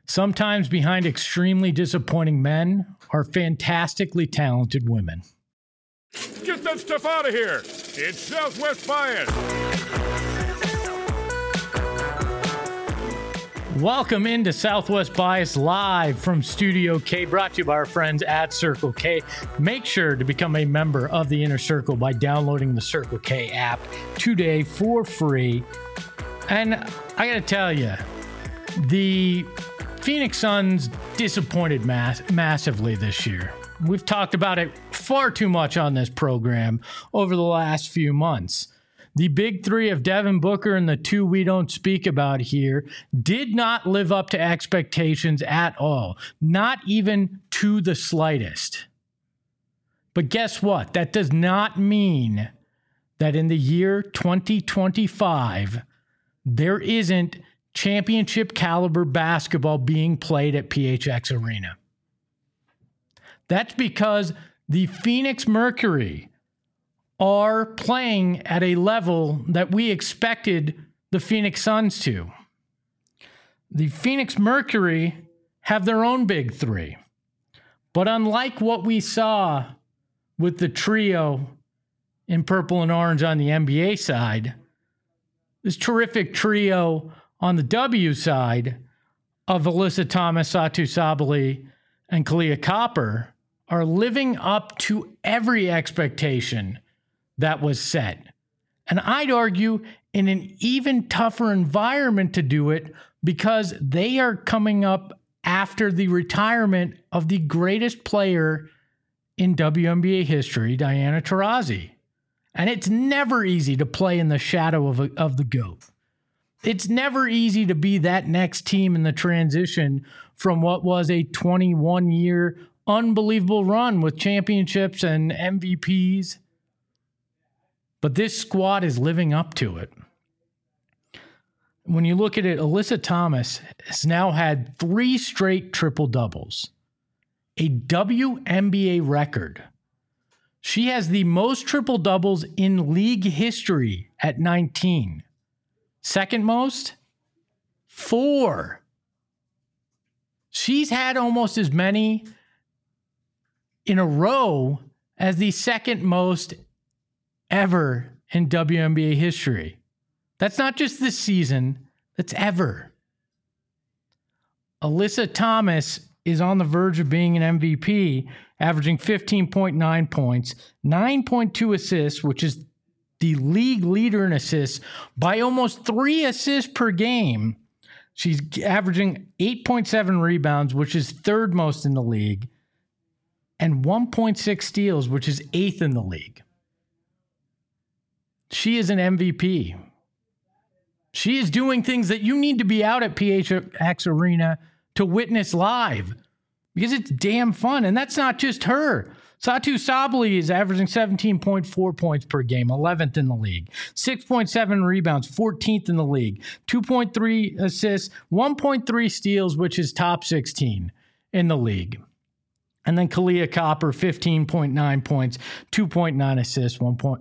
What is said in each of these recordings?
Sometimes behind extremely disappointing men are fantastically talented women. Get that stuff out of here! It's Southwest Bias! Welcome into Southwest Bias live from Studio K, brought to you by our friends at Circle K. Make sure to become a member of the Inner Circle by downloading the Circle K app today for free. And I gotta tell you, the Phoenix Suns disappointed massively this year. We've talked about it far too much on this program over the last few months. The big three of Devin Booker and the two we don't speak about here did not live up to expectations at all, not even to the slightest. But guess what? That does not mean that in the year 2025, there isn't championship caliber basketball being played at PHX Arena. That's because the Phoenix Mercury are playing at a level that we expected the Phoenix Suns to. The Phoenix Mercury have their own big three. But unlike what we saw with the trio in purple and orange on the NBA side, this terrific trio on the W side of Alyssa Thomas, Satou Sabally, and Kahleah Copper are living up to every expectation that was set. And I'd argue in an even tougher environment to do it because they are coming up after the retirement of the greatest player in WNBA history, Diana Taurasi. And it's never easy to play in the shadow of the GOAT. It's never easy to be that next team in the transition from what was a 21-year unbelievable run with championships and MVPs. But this squad is living up to it. When you look at it, Alyssa Thomas has now had 3 straight triple-doubles, a WNBA record. She has the most triple-doubles in league history at 19. Second most, 4. She's had almost as many in a row as the second most ever in WNBA history. That's not just this season, that's ever. Alyssa Thomas is on the verge of being an MVP, averaging 15.9 points, 9.2 assists, which is the league leader in assists by almost 3 assists per game. She's averaging 8.7 rebounds, which is third most in the league, and 1.6 steals, which is 8th in the league. She is an MVP. She is doing things that you need to be out at PHX Arena to witness live because it's damn fun. And that's not just her. Satou Sabally is averaging 17.4 points per game, 11th in the league, 6.7 rebounds, 14th in the league, 2.3 assists, 1.3 steals, which is top 16 in the league. And then Kahleah Copper, 15.9 points, 2.9 assists,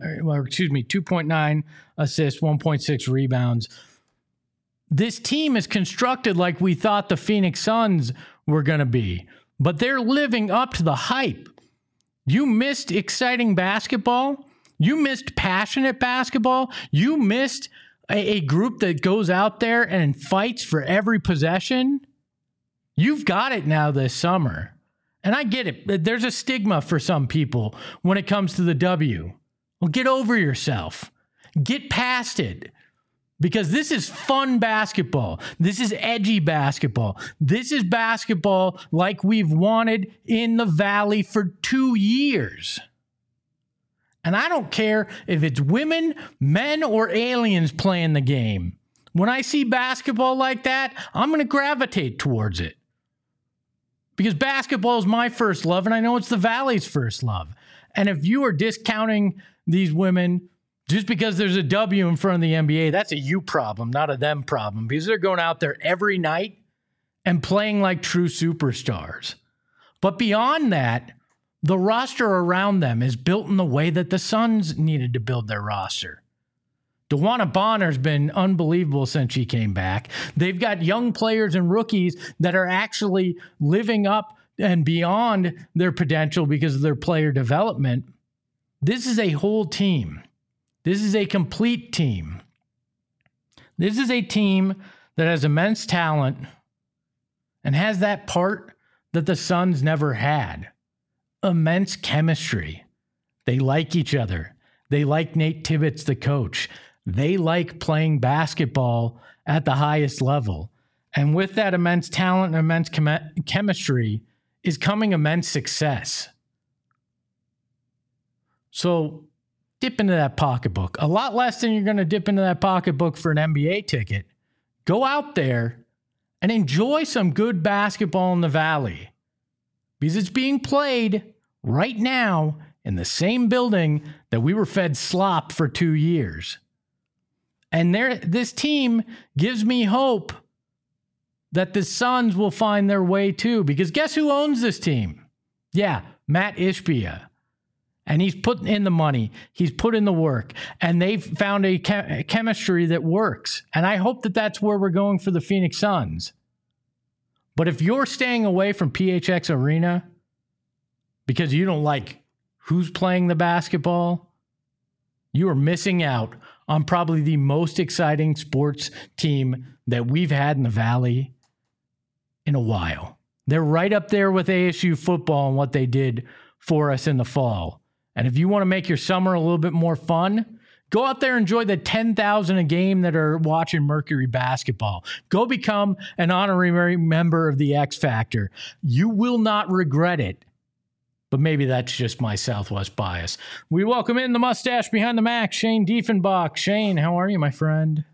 2.9 assists, 1.6 rebounds. This team is constructed like we thought the Phoenix Suns were going to be, but they're living up to the hype. You missed exciting basketball. You missed passionate basketball. You missed a group that goes out there and fights for every possession. You've got it now this summer. And I get it. There's a stigma for some people when it comes to the W. Well, get over yourself. Get past it. Because this is fun basketball. This is edgy basketball. This is basketball like we've wanted in the Valley for 2 years. And I don't care if it's women, men, or aliens playing the game. When I see basketball like that, I'm going to gravitate towards it. Because basketball is my first love, and I know it's the Valley's first love. And if you are discounting these women just because there's a W in front of the NBA, that's a you problem, not a them problem, because they're going out there every night and playing like true superstars. But beyond that, the roster around them is built in the way that the Suns needed to build their roster. DeWanna Bonner's been unbelievable since she came back. They've got young players and rookies that are actually living up and beyond their potential because of their player development. This is a whole team. This is a complete team. This is a team that has immense talent and has that part that the Suns never had. Immense chemistry. They like each other. They like Nate Tibbetts, the coach. They like playing basketball at the highest level. And with that immense talent and immense chemistry is coming immense success. So dip into that pocketbook. A lot less than you're going to dip into that pocketbook for an NBA ticket. Go out there and enjoy some good basketball in the Valley. Because it's being played right now in the same building that we were fed slop for 2 years. And this team gives me hope that the Suns will find their way too. Because guess who owns this team? Yeah, Matt Ishbia. And he's put in the money. He's put in the work. And they've found a chemistry that works. And I hope that that's where we're going for the Phoenix Suns. But if you're staying away from PHX Arena because you don't like who's playing the basketball, you are missing out on probably the most exciting sports team that we've had in the Valley in a while. They're right up there with ASU football and what they did for us in the fall. And if you want to make your summer a little bit more fun, go out there and enjoy the 10,000 a game that are watching Mercury basketball. Go become an honorary member of the X Factor. You will not regret it. But maybe that's just my Southwest bias. We welcome in the mustache behind the Mac, Shane Diefenbach. Shane, how are you, my friend?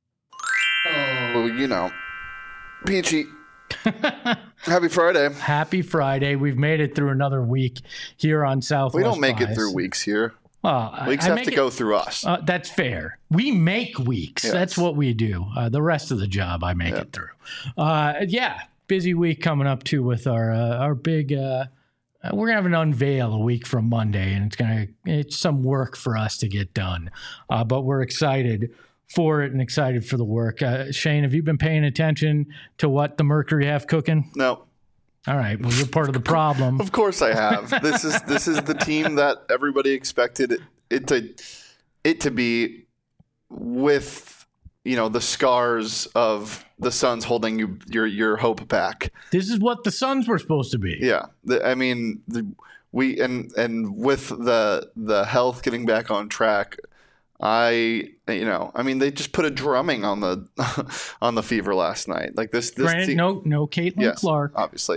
Oh, peachy. Happy Friday. Happy Friday. We've made it through another week here on Southwest We don't make bias. it through weeks here. Weeks have to go through us. That's fair. We make weeks. Yes. That's what we do. The rest of the job, I make it through. Busy week coming up, too, with our big... we're going to have an unveil a week from Monday, and it's some work for us to get done. But we're excited for it and excited for the work. Shane, have you been paying attention to what the Mercury have cooking? No. All right. Well, you're part of the problem. Of course I have. This is the team that everybody expected it to be, with the scars of the Suns holding your hope back. This is what the Suns were supposed to be. Yeah. We with the health getting back on track, they just put a drumming on the Fever last night. Like this Granted, team, no Caitlin Clark. Obviously.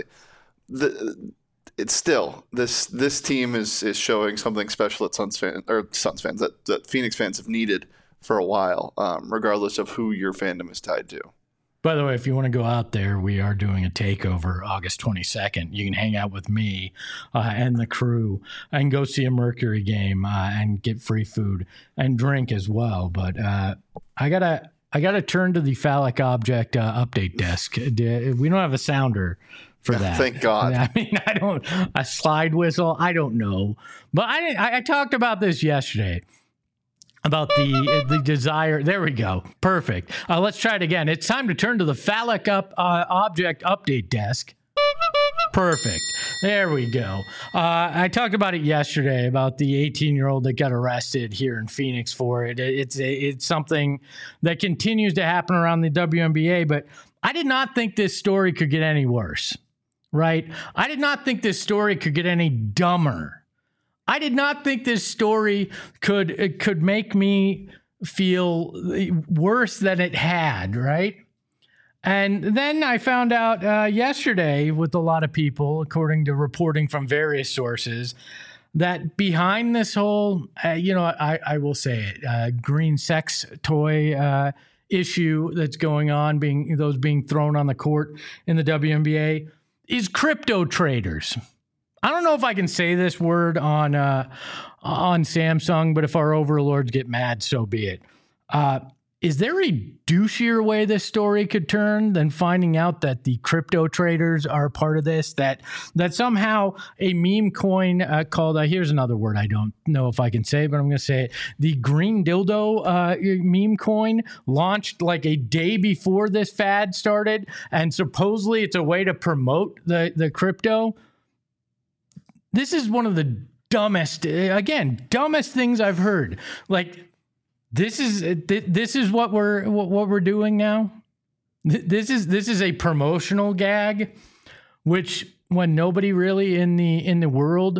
It's still this team is showing something special that Suns fans that Phoenix fans have needed for a while, regardless of who your fandom is tied to. By the way, if you want to go out there, we are doing a takeover August 22nd. You can hang out with me and the crew and go see a Mercury game and get free food and drink as well. But I gotta turn to the phallic object update desk. We don't have a sounder for that. Thank God. I mean, a slide whistle. I don't know, but I talked about this yesterday. About the desire. There we go. Perfect. Let's try it again. It's time to turn to the phallic object update desk. Perfect. There we go. I talked about it yesterday about the 18-year-old that got arrested here in Phoenix for it. It's something that continues to happen around the WNBA, but I did not think this story could get any worse, right? I did not think this story could get any dumber. I did not think this story could make me feel worse than it had, right? And then I found out yesterday with a lot of people, according to reporting from various sources, that behind this whole, I will say it, green sex toy issue that's going on, being thrown on the court in the WNBA, is crypto traders. I don't know if I can say this word on Samsung, but if our overlords get mad, so be it. is there a douchier way this story could turn than finding out that the crypto traders are part of this? That somehow a meme coin called, here's another word I don't know if I can say, but I'm going to say it. The green dildo meme coin launched like a day before this fad started, and supposedly it's a way to promote the crypto. This is one of the dumbest things I've heard. Like, This is what we're doing now. This is a promotional gag, which when nobody really in the world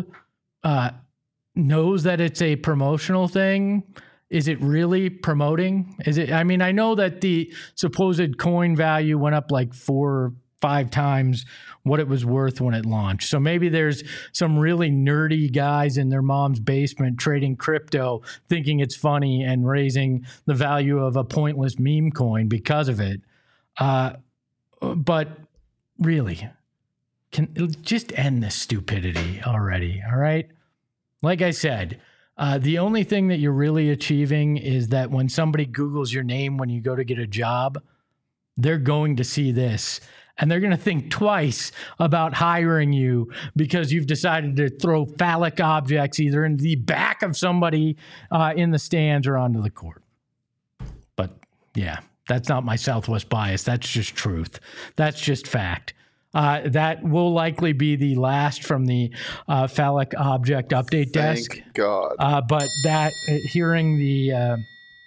knows that it's a promotional thing, is it really promoting? Is it? I mean, I know that the supposed coin value went up like 4 or 5 times what it was worth when it launched. So maybe there's some really nerdy guys in their mom's basement trading crypto, thinking it's funny and raising the value of a pointless meme coin because of it. But really, can just end this stupidity already, all right? Like I said, the only thing that you're really achieving is that when somebody Googles your name when you go to get a job, they're going to see this. And they're going to think twice about hiring you because you've decided to throw phallic objects either in the back of somebody in the stands or onto the court. But yeah, that's not my Southwest bias. That's just truth. That's just fact. That will likely be the last from the phallic object update desk. Thank God. But that hearing the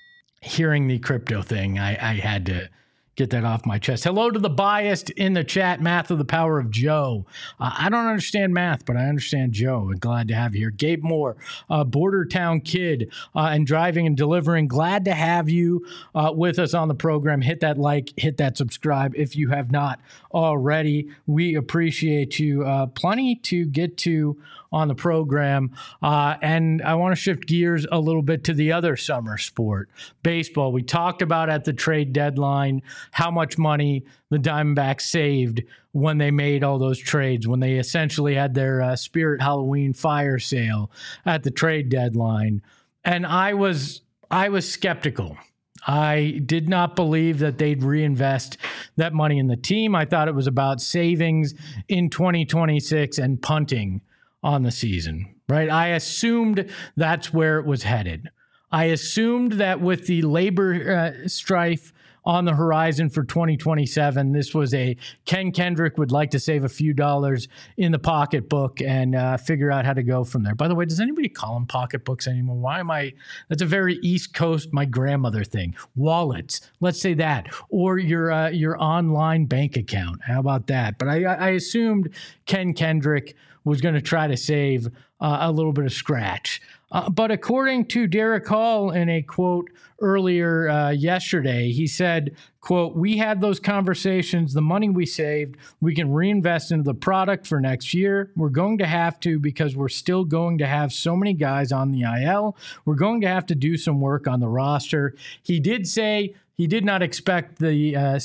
crypto thing, I had to get that off my chest. Hello to the biased in the chat. Math of the Power of Joe. I don't understand math, but I understand Joe. And glad to have you here. Gabe Moore, Border Town Kid, and Driving and Delivering. Glad to have you with us on the program. Hit that like, hit that subscribe if you have not already. We appreciate you. Plenty to get to on the program. And I want to shift gears a little bit to the other summer sport, baseball. We talked about at the trade deadline how much money the Diamondbacks saved when they made all those trades, when they essentially had their Spirit Halloween fire sale at the trade deadline. And I was skeptical. I did not believe that they'd reinvest that money in the team. I thought it was about savings in 2026 and punting on the season, right? I assumed that's where it was headed. I assumed that with the labor strife on the horizon for 2027, this was a Ken Kendrick would like to save a few dollars in the pocketbook and figure out how to go from there. By the way, does anybody call them pocketbooks anymore? Why am I? That's a very East Coast, my grandmother thing. Wallets, let's say that, or your online bank account. How about that? But I assumed Ken Kendrick was going to try to save a little bit of scratch. But according to Derek Hall in a quote earlier yesterday, he said, quote, "We had those conversations. The money we saved, we can reinvest into the product for next year. We're going to have to because we're still going to have so many guys on the IL. We're going to have to do some work on the roster." He did say he did not expect the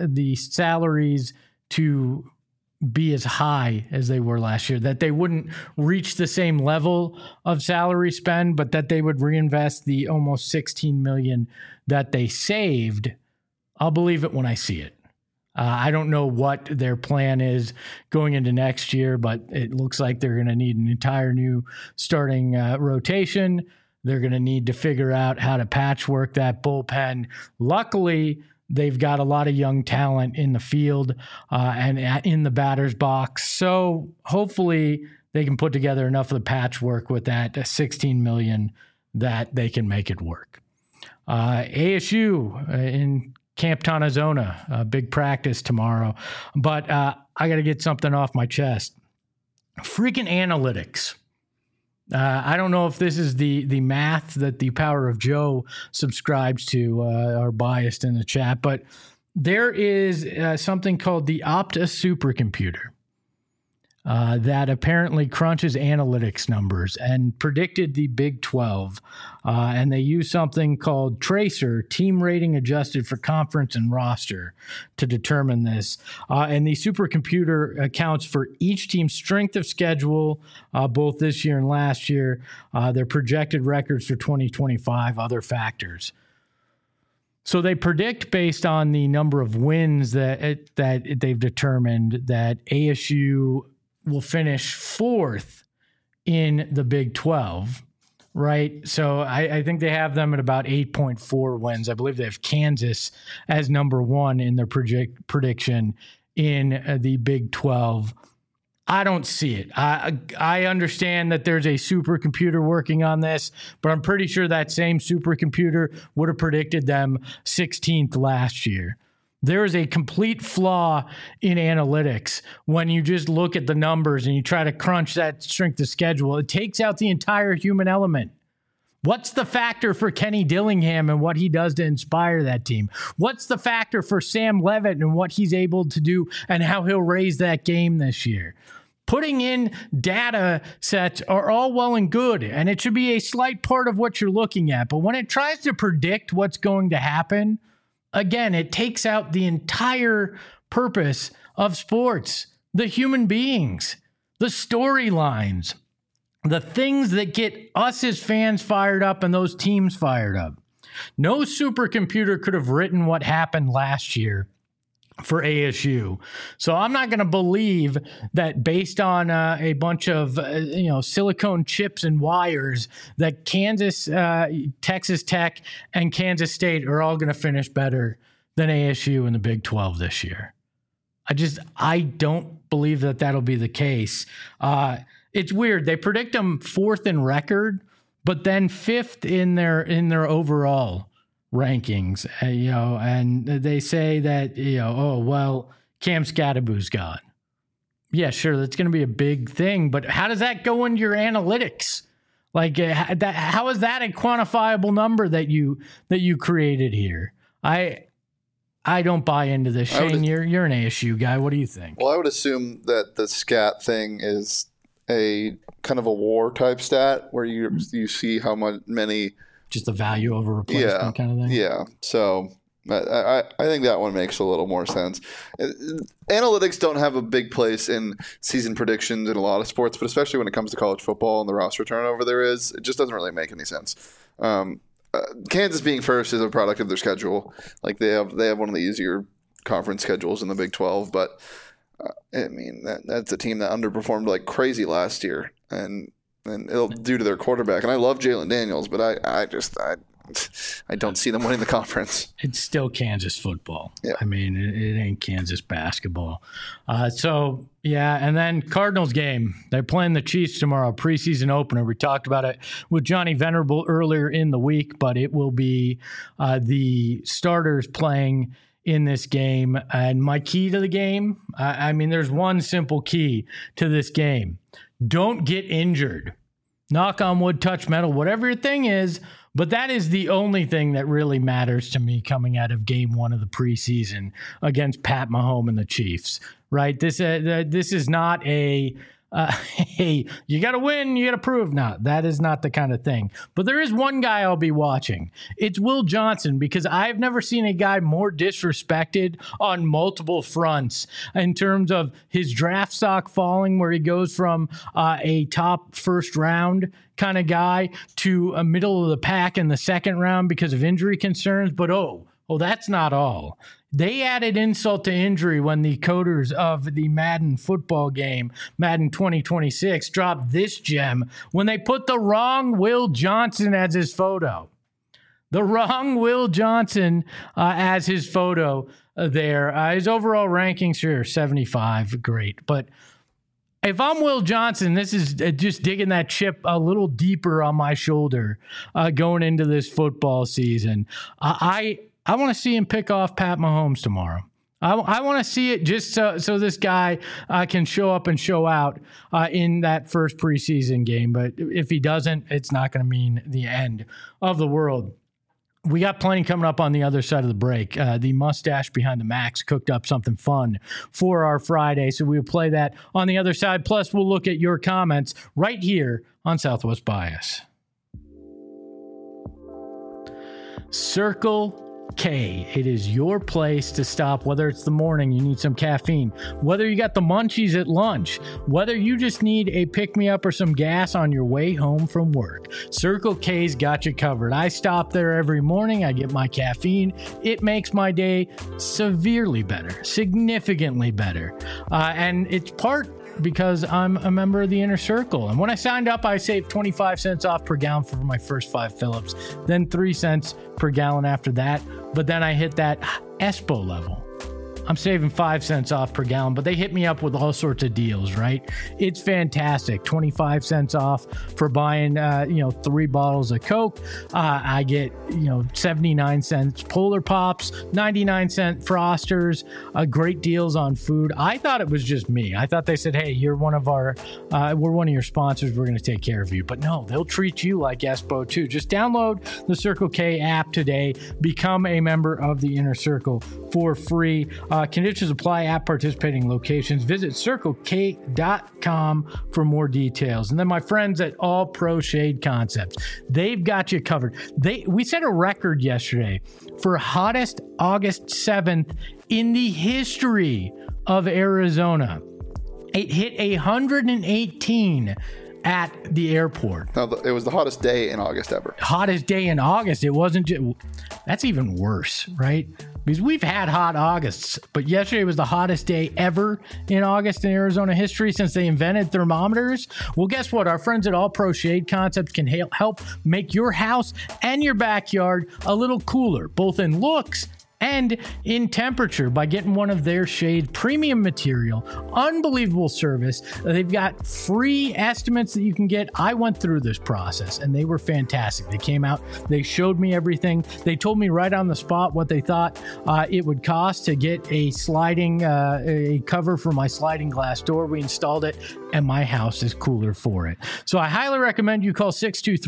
salaries to be as high as they were last year, that they wouldn't reach the same level of salary spend, but that they would reinvest the almost $16 million that they saved. I'll believe it when I see it. I don't know what their plan is going into next year, but it looks like they're going to need an entire new starting rotation. They're going to need to figure out how to patchwork that bullpen. Luckily, they've got a lot of young talent in the field and in the batter's box. So hopefully they can put together enough of the patchwork with that $16 million that they can make it work. ASU in Camp Tonazona, big practice tomorrow. But I got to get something off my chest. Freaking analytics. I don't know if this is the math that the Power of Joe subscribes to, or biased in the chat, but there is something called the Opta supercomputer that apparently crunches analytics numbers and predicted the Big 12. And they use something called Tracer, team rating adjusted for conference and roster, to determine this. And the supercomputer accounts for each team's strength of schedule, both this year and last year, their projected records for 2025, other factors. So they predict based on the number of wins that they've determined that ASU will finish fourth in the Big 12, right? So I think they have them at about 8.4 wins. I believe they have Kansas as number one in their prediction in the Big 12. I don't see it. I understand that there's a supercomputer working on this, but I'm pretty sure that same supercomputer would have predicted them 16th last year. There is a complete flaw in analytics when you just look at the numbers and you try to crunch that strength of schedule. It takes out the entire human element. What's the factor for Kenny Dillingham and what he does to inspire that team? What's the factor for Sam Levitt and what he's able to do and how he'll raise that game this year? Putting in data sets are all well and good, and it should be a slight part of what you're looking at. But when it tries to predict what's going to happen, again, it takes out the entire purpose of sports, the human beings, the storylines, the things that get us as fans fired up and those teams fired up. No supercomputer could have written what happened last year for ASU. So I'm not going to believe that based on a bunch of silicone chips and wires that Kansas, Texas Tech, and Kansas State are all going to finish better than ASU in the Big 12 this year. I don't believe that that'll be the case. It's weird. They predict them fourth in record, but then fifth in their overall rankings, and they say that, Cam Scadaboo's gone. Yeah, sure, that's going to be a big thing, but how does that go into your analytics? Like, how is that a quantifiable number that you created here? I don't buy into this. Shane, you're an ASU guy. What do you think? Well, I would assume that the scat thing is a kind of a war type stat where you see how many. Just the value over replacement kind of thing? Yeah. So I think that one makes a little more sense. Analytics don't have a big place in season predictions in a lot of sports, but especially when it comes to college football and the roster turnover it just doesn't really make any sense. Kansas being first is a product of their schedule. Like they have one of the easier conference schedules in the Big 12, but that's a team that underperformed like crazy last year, and it'll due to their quarterback. And I love Jalen Daniels, but I don't see them winning the conference. It's still Kansas football. Yeah. It ain't Kansas basketball. And then Cardinals game. They're playing the Chiefs tomorrow, preseason opener. We talked about it with Johnny Venerable earlier in the week, but it will be the starters playing in this game. And my key to the game, there's one simple key to this game. Don't get injured. Knock on wood, touch metal, whatever your thing is. But that is the only thing that really matters to me coming out of game one of the preseason against Pat Mahomes and the Chiefs, right? This is not hey, you got to win, you got to prove. No, that is not the kind of thing. But there is one guy I'll be watching. It's Will Johnson, because I've never seen a guy more disrespected on multiple fronts in terms of his draft stock falling, where he goes from a top first round kind of guy to a middle of the pack in the second round because of injury concerns. But that's not all. They added insult to injury when the coders of the Madden football game, Madden 2026, dropped this gem when they put the wrong Will Johnson as his photo. The wrong Will Johnson as his photo there. His overall rankings, sure, 75, great. But if I'm Will Johnson, this is just digging that chip a little deeper on my shoulder going into this football season. I want to see him pick off Pat Mahomes tomorrow. I want to see it just so this guy can show up and show out in that first preseason game. But if he doesn't, it's not going to mean the end of the world. We got plenty coming up on the other side of the break. The mustache behind the Max cooked up something fun for our Friday, so we'll play that on the other side. Plus, we'll look at your comments right here on Southwest Bias. Circle K. It is your place to stop, whether it's the morning, you need some caffeine, whether you got the munchies at lunch, whether you just need a pick-me-up or some gas on your way home from work. Circle K's got you covered. I stop there every morning. I get my caffeine. It makes my day severely better, significantly better. And it's part because I'm a member of the Inner Circle. And when I signed up, I saved 25 cents off per gallon for my first 5 Phillips, then 3 cents per gallon after that. But then I hit that ESPO level. I'm saving 5 cents off per gallon, but they hit me up with all sorts of deals, right? It's fantastic. 25 cents off for buying, 3 bottles of Coke. I get, 79 cents Polar Pops, 99 cent Frosters, great deals on food. I thought it was just me. I thought they said, hey, you're one of we're one of your sponsors. We're going to take care of you. But no, they'll treat you like ESPO too. Just download the Circle K app today. Become a member of the Inner Circle for free. Conditions apply at participating locations. Visit CircleK.com for more details. And then my friends at All Pro Shade Concepts, they've got you covered. We set a record yesterday for hottest August 7th in the history of Arizona. It hit 118 at the airport. No, it was the hottest day in August ever. Hottest day in August. It wasn't just... That's even worse, right? Because we've had hot Augusts, but yesterday was the hottest day ever in August in Arizona history since they invented thermometers. Well, guess what? Our friends at All Pro Shade Concepts can help make your house and your backyard a little cooler, both in looks and in temperature, by getting one of their shade premium material. Unbelievable service. They've got free estimates that you can get. I went through this process and they were fantastic. They came out, they showed me everything. They told me right on the spot what they thought it would cost to get a sliding a cover for my sliding glass door. We installed it and my house is cooler for it. So I highly recommend you call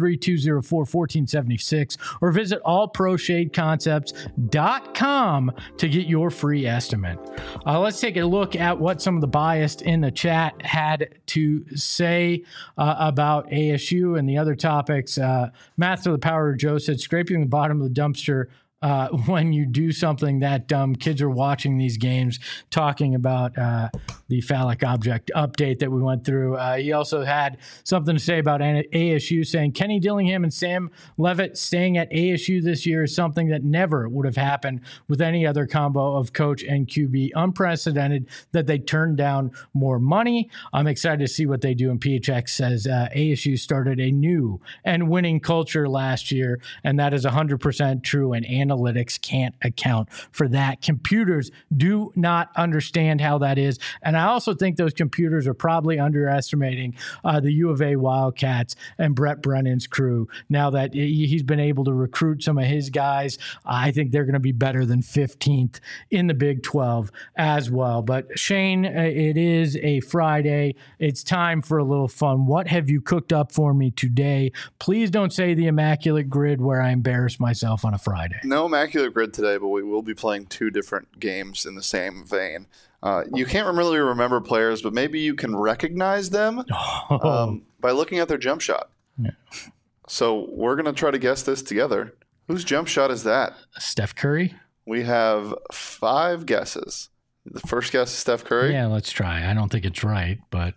623-204-1476 or visit allproshadeconcepts.com to get your free estimate. Let's take a look at what some of the biased in the chat had to say about ASU and the other topics. Master the Power Joe said, scraping the bottom of the dumpster when you do something that dumb. Kids are watching these games, talking about the phallic object update that we went through. He also had something to say about ASU, saying Kenny Dillingham and Sam Levitt staying at ASU this year is something that never would have happened with any other combo of coach and QB. Unprecedented that they turned down more money. I'm excited to see what they do. And PHX says ASU started a new and winning culture last year, and that is 100% true, and analytics can't account for that. Computers do not understand how that is. And I also think those computers are probably underestimating the U of A Wildcats and Brett Brennan's crew. Now that he's been able to recruit some of his guys, I think they're going to be better than 15th in the Big 12 as well. But Shane, it is a Friday. It's time for a little fun. What have you cooked up for me today? Please don't say the Immaculate Grid where I embarrass myself on a Friday. No Immaculate Grid today, but we will be playing 2 different games in the same vein. You can't really remember players, but maybe you can recognize them by looking at their jump shot. Yeah. So we're going to try to guess this together. Whose jump shot is that? Steph Curry? We have 5 guesses. The first guess is Steph Curry? Yeah, let's try. I don't think it's right, but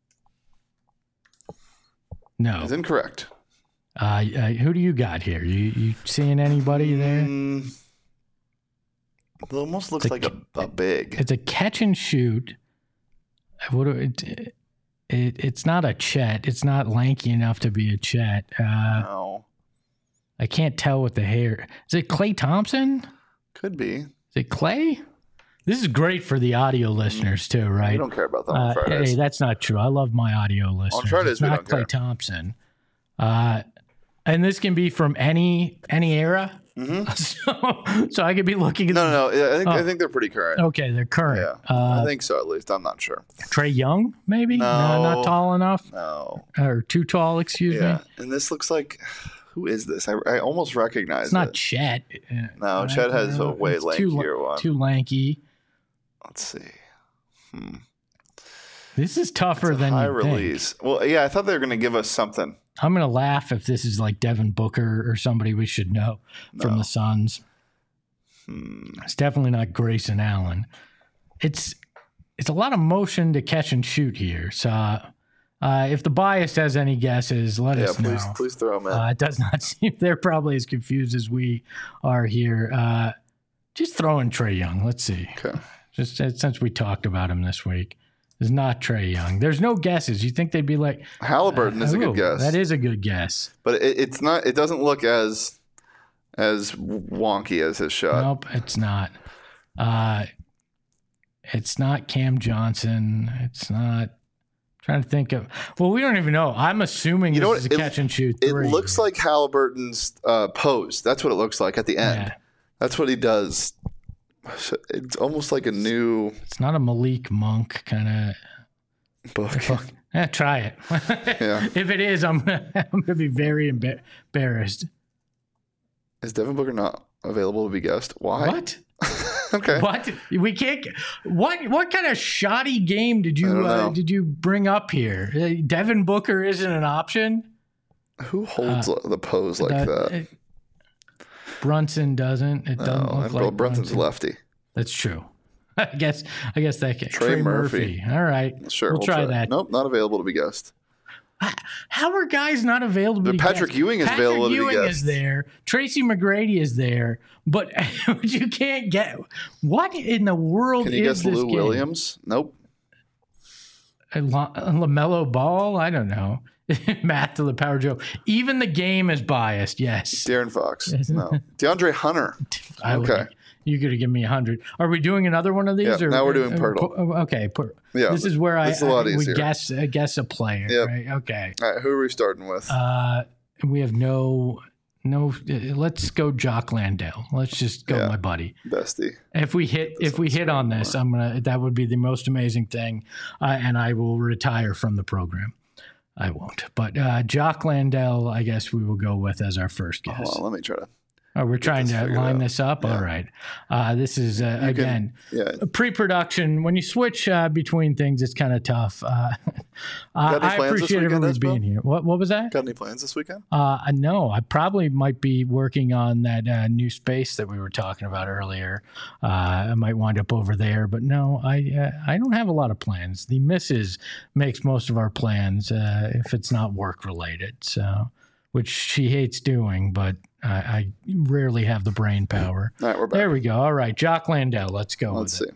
no. It's incorrect. Who do you got here? You seeing anybody there? It almost looks like a big. It's a catch and shoot. It's not a Chet. It's not lanky enough to be a Chet. No. I can't tell with the hair. Is it Klay Thompson? Could be. Is it Klay? This is great for the audio listeners too, right? We don't care about that on Fridays. Hey, that's not true. I love my audio listeners. On Fridays, it's not Klay Thompson. And this can be from any era. Mm-hmm. So I could be looking at No. I think they're pretty current. Okay, they're current. Yeah, I think so, at least. I'm not sure. Trae Young, maybe? No, not tall enough? No. Or too tall, excuse me. And this looks like... Who is this? I almost recognize it. It's not Chet. No, Chet has a way lankier one. Too lanky. Let's see. This is tougher than high you release. think. Well, yeah, I thought they were going to give us something. I'm going to laugh if this is like Devin Booker or somebody we should know from the Suns. It's definitely not Grayson Allen. It's a lot of motion to catch and shoot here. So if the bias has any guesses, let us know. Please throw them in. It does not seem they're probably as confused as we are here. Just throw in Trae Young. Let's see. Okay. Just since we talked about him this week. It's not Trae Young. There's no guesses. You think they'd be like Halliburton is a good guess. That is a good guess. But it's not. It doesn't look as wonky as his shot. Nope, it's not. It's not Cam Johnson. It's not. Trying to think of. Well, we don't even know. I'm assuming this is a catch and shoot three. It looks like Halliburton's pose. That's what it looks like at the end. Yeah. That's what he does. It's almost like a new. It's not a Malik Monk kind of book. Try it. Yeah. If it is, I'm gonna be very embarrassed. Is Devin Booker not available to be guessed? Why? What? Okay. What? We can't. What kind of shoddy game did you bring up here? Devin Booker isn't an option. Who holds the pose like that? Brunson doesn't. It doesn't look like Brunson's lefty. That's true. I guess that can. Trey Murphy. All right. Sure. We'll try that. Nope, not available to be guessed. How are guys not available to be Patrick guessed? Ewing is available to be guessed. Patrick Ewing is there. Tracy McGrady is there. But you can't get. What in the world is this game? Can you guess Lou Williams? Nope. LaMelo Ball? I don't know. Math to the power Joe. Even the game is biased. Yes. De'Aaron Fox. No. DeAndre Hunter. Okay. You could have given me 100. Are we doing another one of these? Yeah, now we're doing Pirtle. Okay. Yeah. This is where we guess a player. Yep. Right? Okay. All right. Who are we starting with? We have no. Let's go Jock Landale. Let's just go, my buddy. Bestie. If we hit on this, that would be the most amazing thing, and I will retire from the program. I won't. But Jock Landale, I guess we will go with as our first guess. Hold on, let me try to. Oh, we're trying to line this up? Yeah. All right. This is, pre-production. When you switch between things, it's kind of tough. I appreciate everybody being here. What was that? Got any plans this weekend? No. I probably might be working on that new space that we were talking about earlier. I might wind up over there. But no, I don't have a lot of plans. The missus makes most of our plans if it's not work-related, which she hates doing, but I rarely have the brain power. All right, we're back. There we go. All right, Jock Landale. Let's go. Let's see.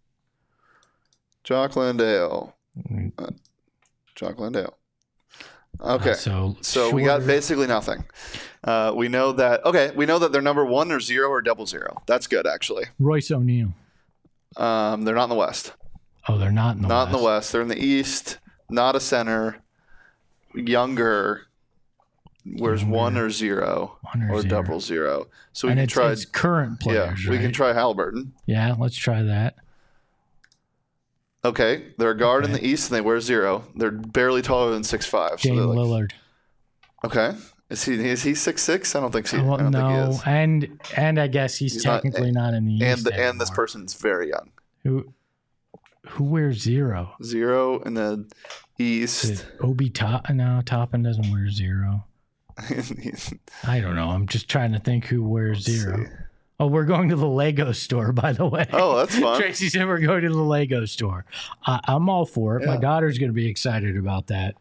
Jock Landale. Jock Landale. Okay. So we got basically nothing. We know that they're number 1 or 0 or 00. That's good, actually. Royce O'Neal. They're not in the West. Oh, they're not in the West. Not in the West. They're in the East. Not a center. Younger. Where's 1 or 0 or 00. So we can try it's current players. Yeah, we can try Halliburton. Yeah, let's try that. Okay, they're a guard in the East and they wear 0. They're barely taller than 6'5". Dame Lillard. Okay, is he 6'6"? I don't think so. Well, I don't think he is. And I guess he's technically not in the East. And this person's very young. Who wears 0? 0 in the East. Obi Toppin? No, Toppin doesn't wear 0. I don't know. I'm just trying to think who wears 0. Oh, we're going to the Lego store, by the way. Oh, that's fun. Tracy said we're going to the Lego store. I'm all for it. Yeah. My daughter's going to be excited about that.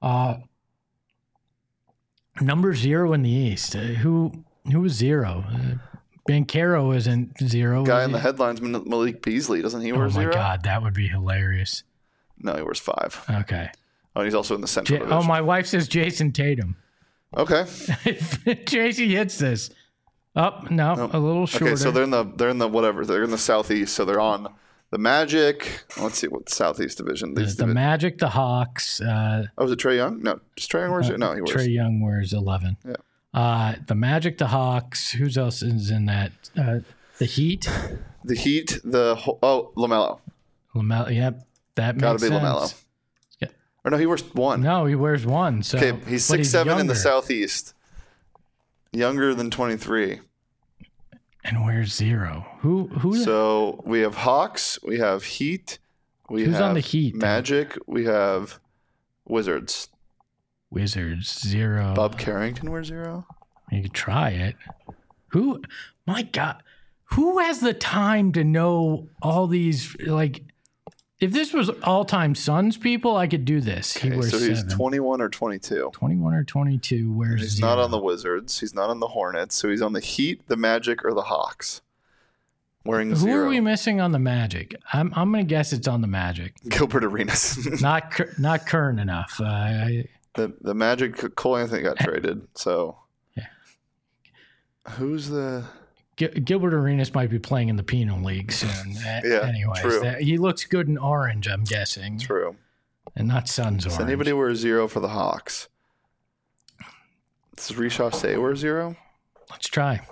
Number 0 in the East. Who was 0? Banchero isn't 0. Guy in the headlines, Malik Beasley. Doesn't he wear 0? Oh, my God. That would be hilarious. No, he wears 5. Okay. Oh, and he's also in the Central Division. Oh, my wife says Jason Tatum. Okay. Tracy hits this. Oh, no, a little shorter. Okay, so they're in the whatever. They're in the Southeast, so they're on the Magic. Let's see what Southeast Division. The Magic, the Hawks. Was it Trae Young? No, just Trae Young wears it. No, he wears. Trae Young wears 11. Yeah. The Magic, the Hawks. Who else is in that? The Heat. The Heat. LaMelo. LaMelo. Yep, that makes sense. Gotta be LaMelo. Or no, he wears 1. No, he wears 1. So okay, he's 6'7" in the Southeast. Younger than 23. And wears 0. Who? So we have Hawks. We have Heat. Who's on the Heat? Magic. We have Wizards. Wizards 0. Bob Carrington wears 0. You could try it. Who? My God. who has the time to know all these? Like, if this was all-time Suns people, I could do this. Okay, so he's 21 or 22. 21 or 22. Where's he's not on the Wizards. He's not on the Hornets. So he's on the Heat, the Magic, or the Hawks. Wearing Who 0. are we missing on the Magic? I'm going to guess it's on the Magic. Gilbert Arenas. not current enough. The Magic, Cole Anthony got traded. So yeah. Who's the... Gilbert Arenas might be playing in the Penal League soon. Anyways, true. He looks good in orange, I'm guessing. True. And not Suns orange. Does anybody wear 0 for the Hawks? Does Rishaw say wear 0? Let's try.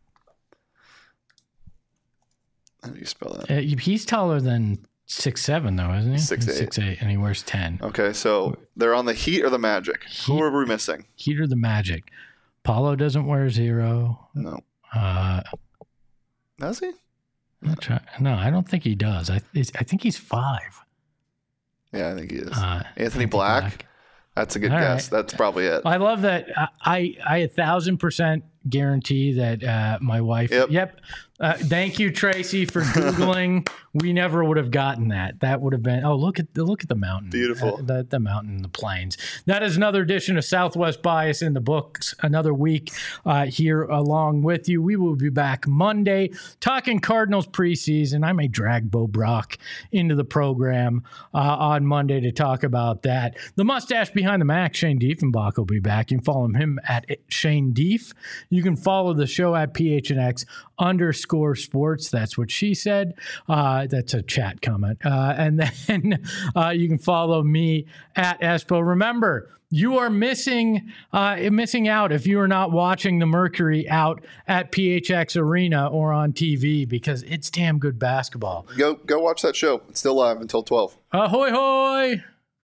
How do you spell that? He's taller than 6'7", though, isn't he? 6'8". 6'8", and he wears 10. Okay, so they're on the Heat or the Magic? Who are we missing? Heat or the Magic? Paulo doesn't wear 0. No. Does he? No, I don't think he does. I think he's 5. Yeah, I think he is. Anthony Black? That's a good guess. Right. That's probably it. I love that. I 1,000% guarantee that my wife. Yep. Thank you, Tracy, for Googling. We never would have gotten that. That would have been. Oh, look at the mountain. Beautiful. The mountain, the plains. That is another edition of Southwest Bias in the books. Another week here along with you. We will be back Monday talking Cardinals preseason. I may drag Bo Brock into the program on Monday to talk about that. The mustache behind the Mac, Shane Diefenbach, will be back. You can follow him at Shane Dief. You can follow the show at PHNX_sports. That's what she said. That's a chat comment. And then you can follow me at Espo. Remember, you are missing out if you are not watching the Mercury out at PHX Arena or on TV, because it's damn good basketball. Go watch that show. It's still live until 12. Ahoy hoy!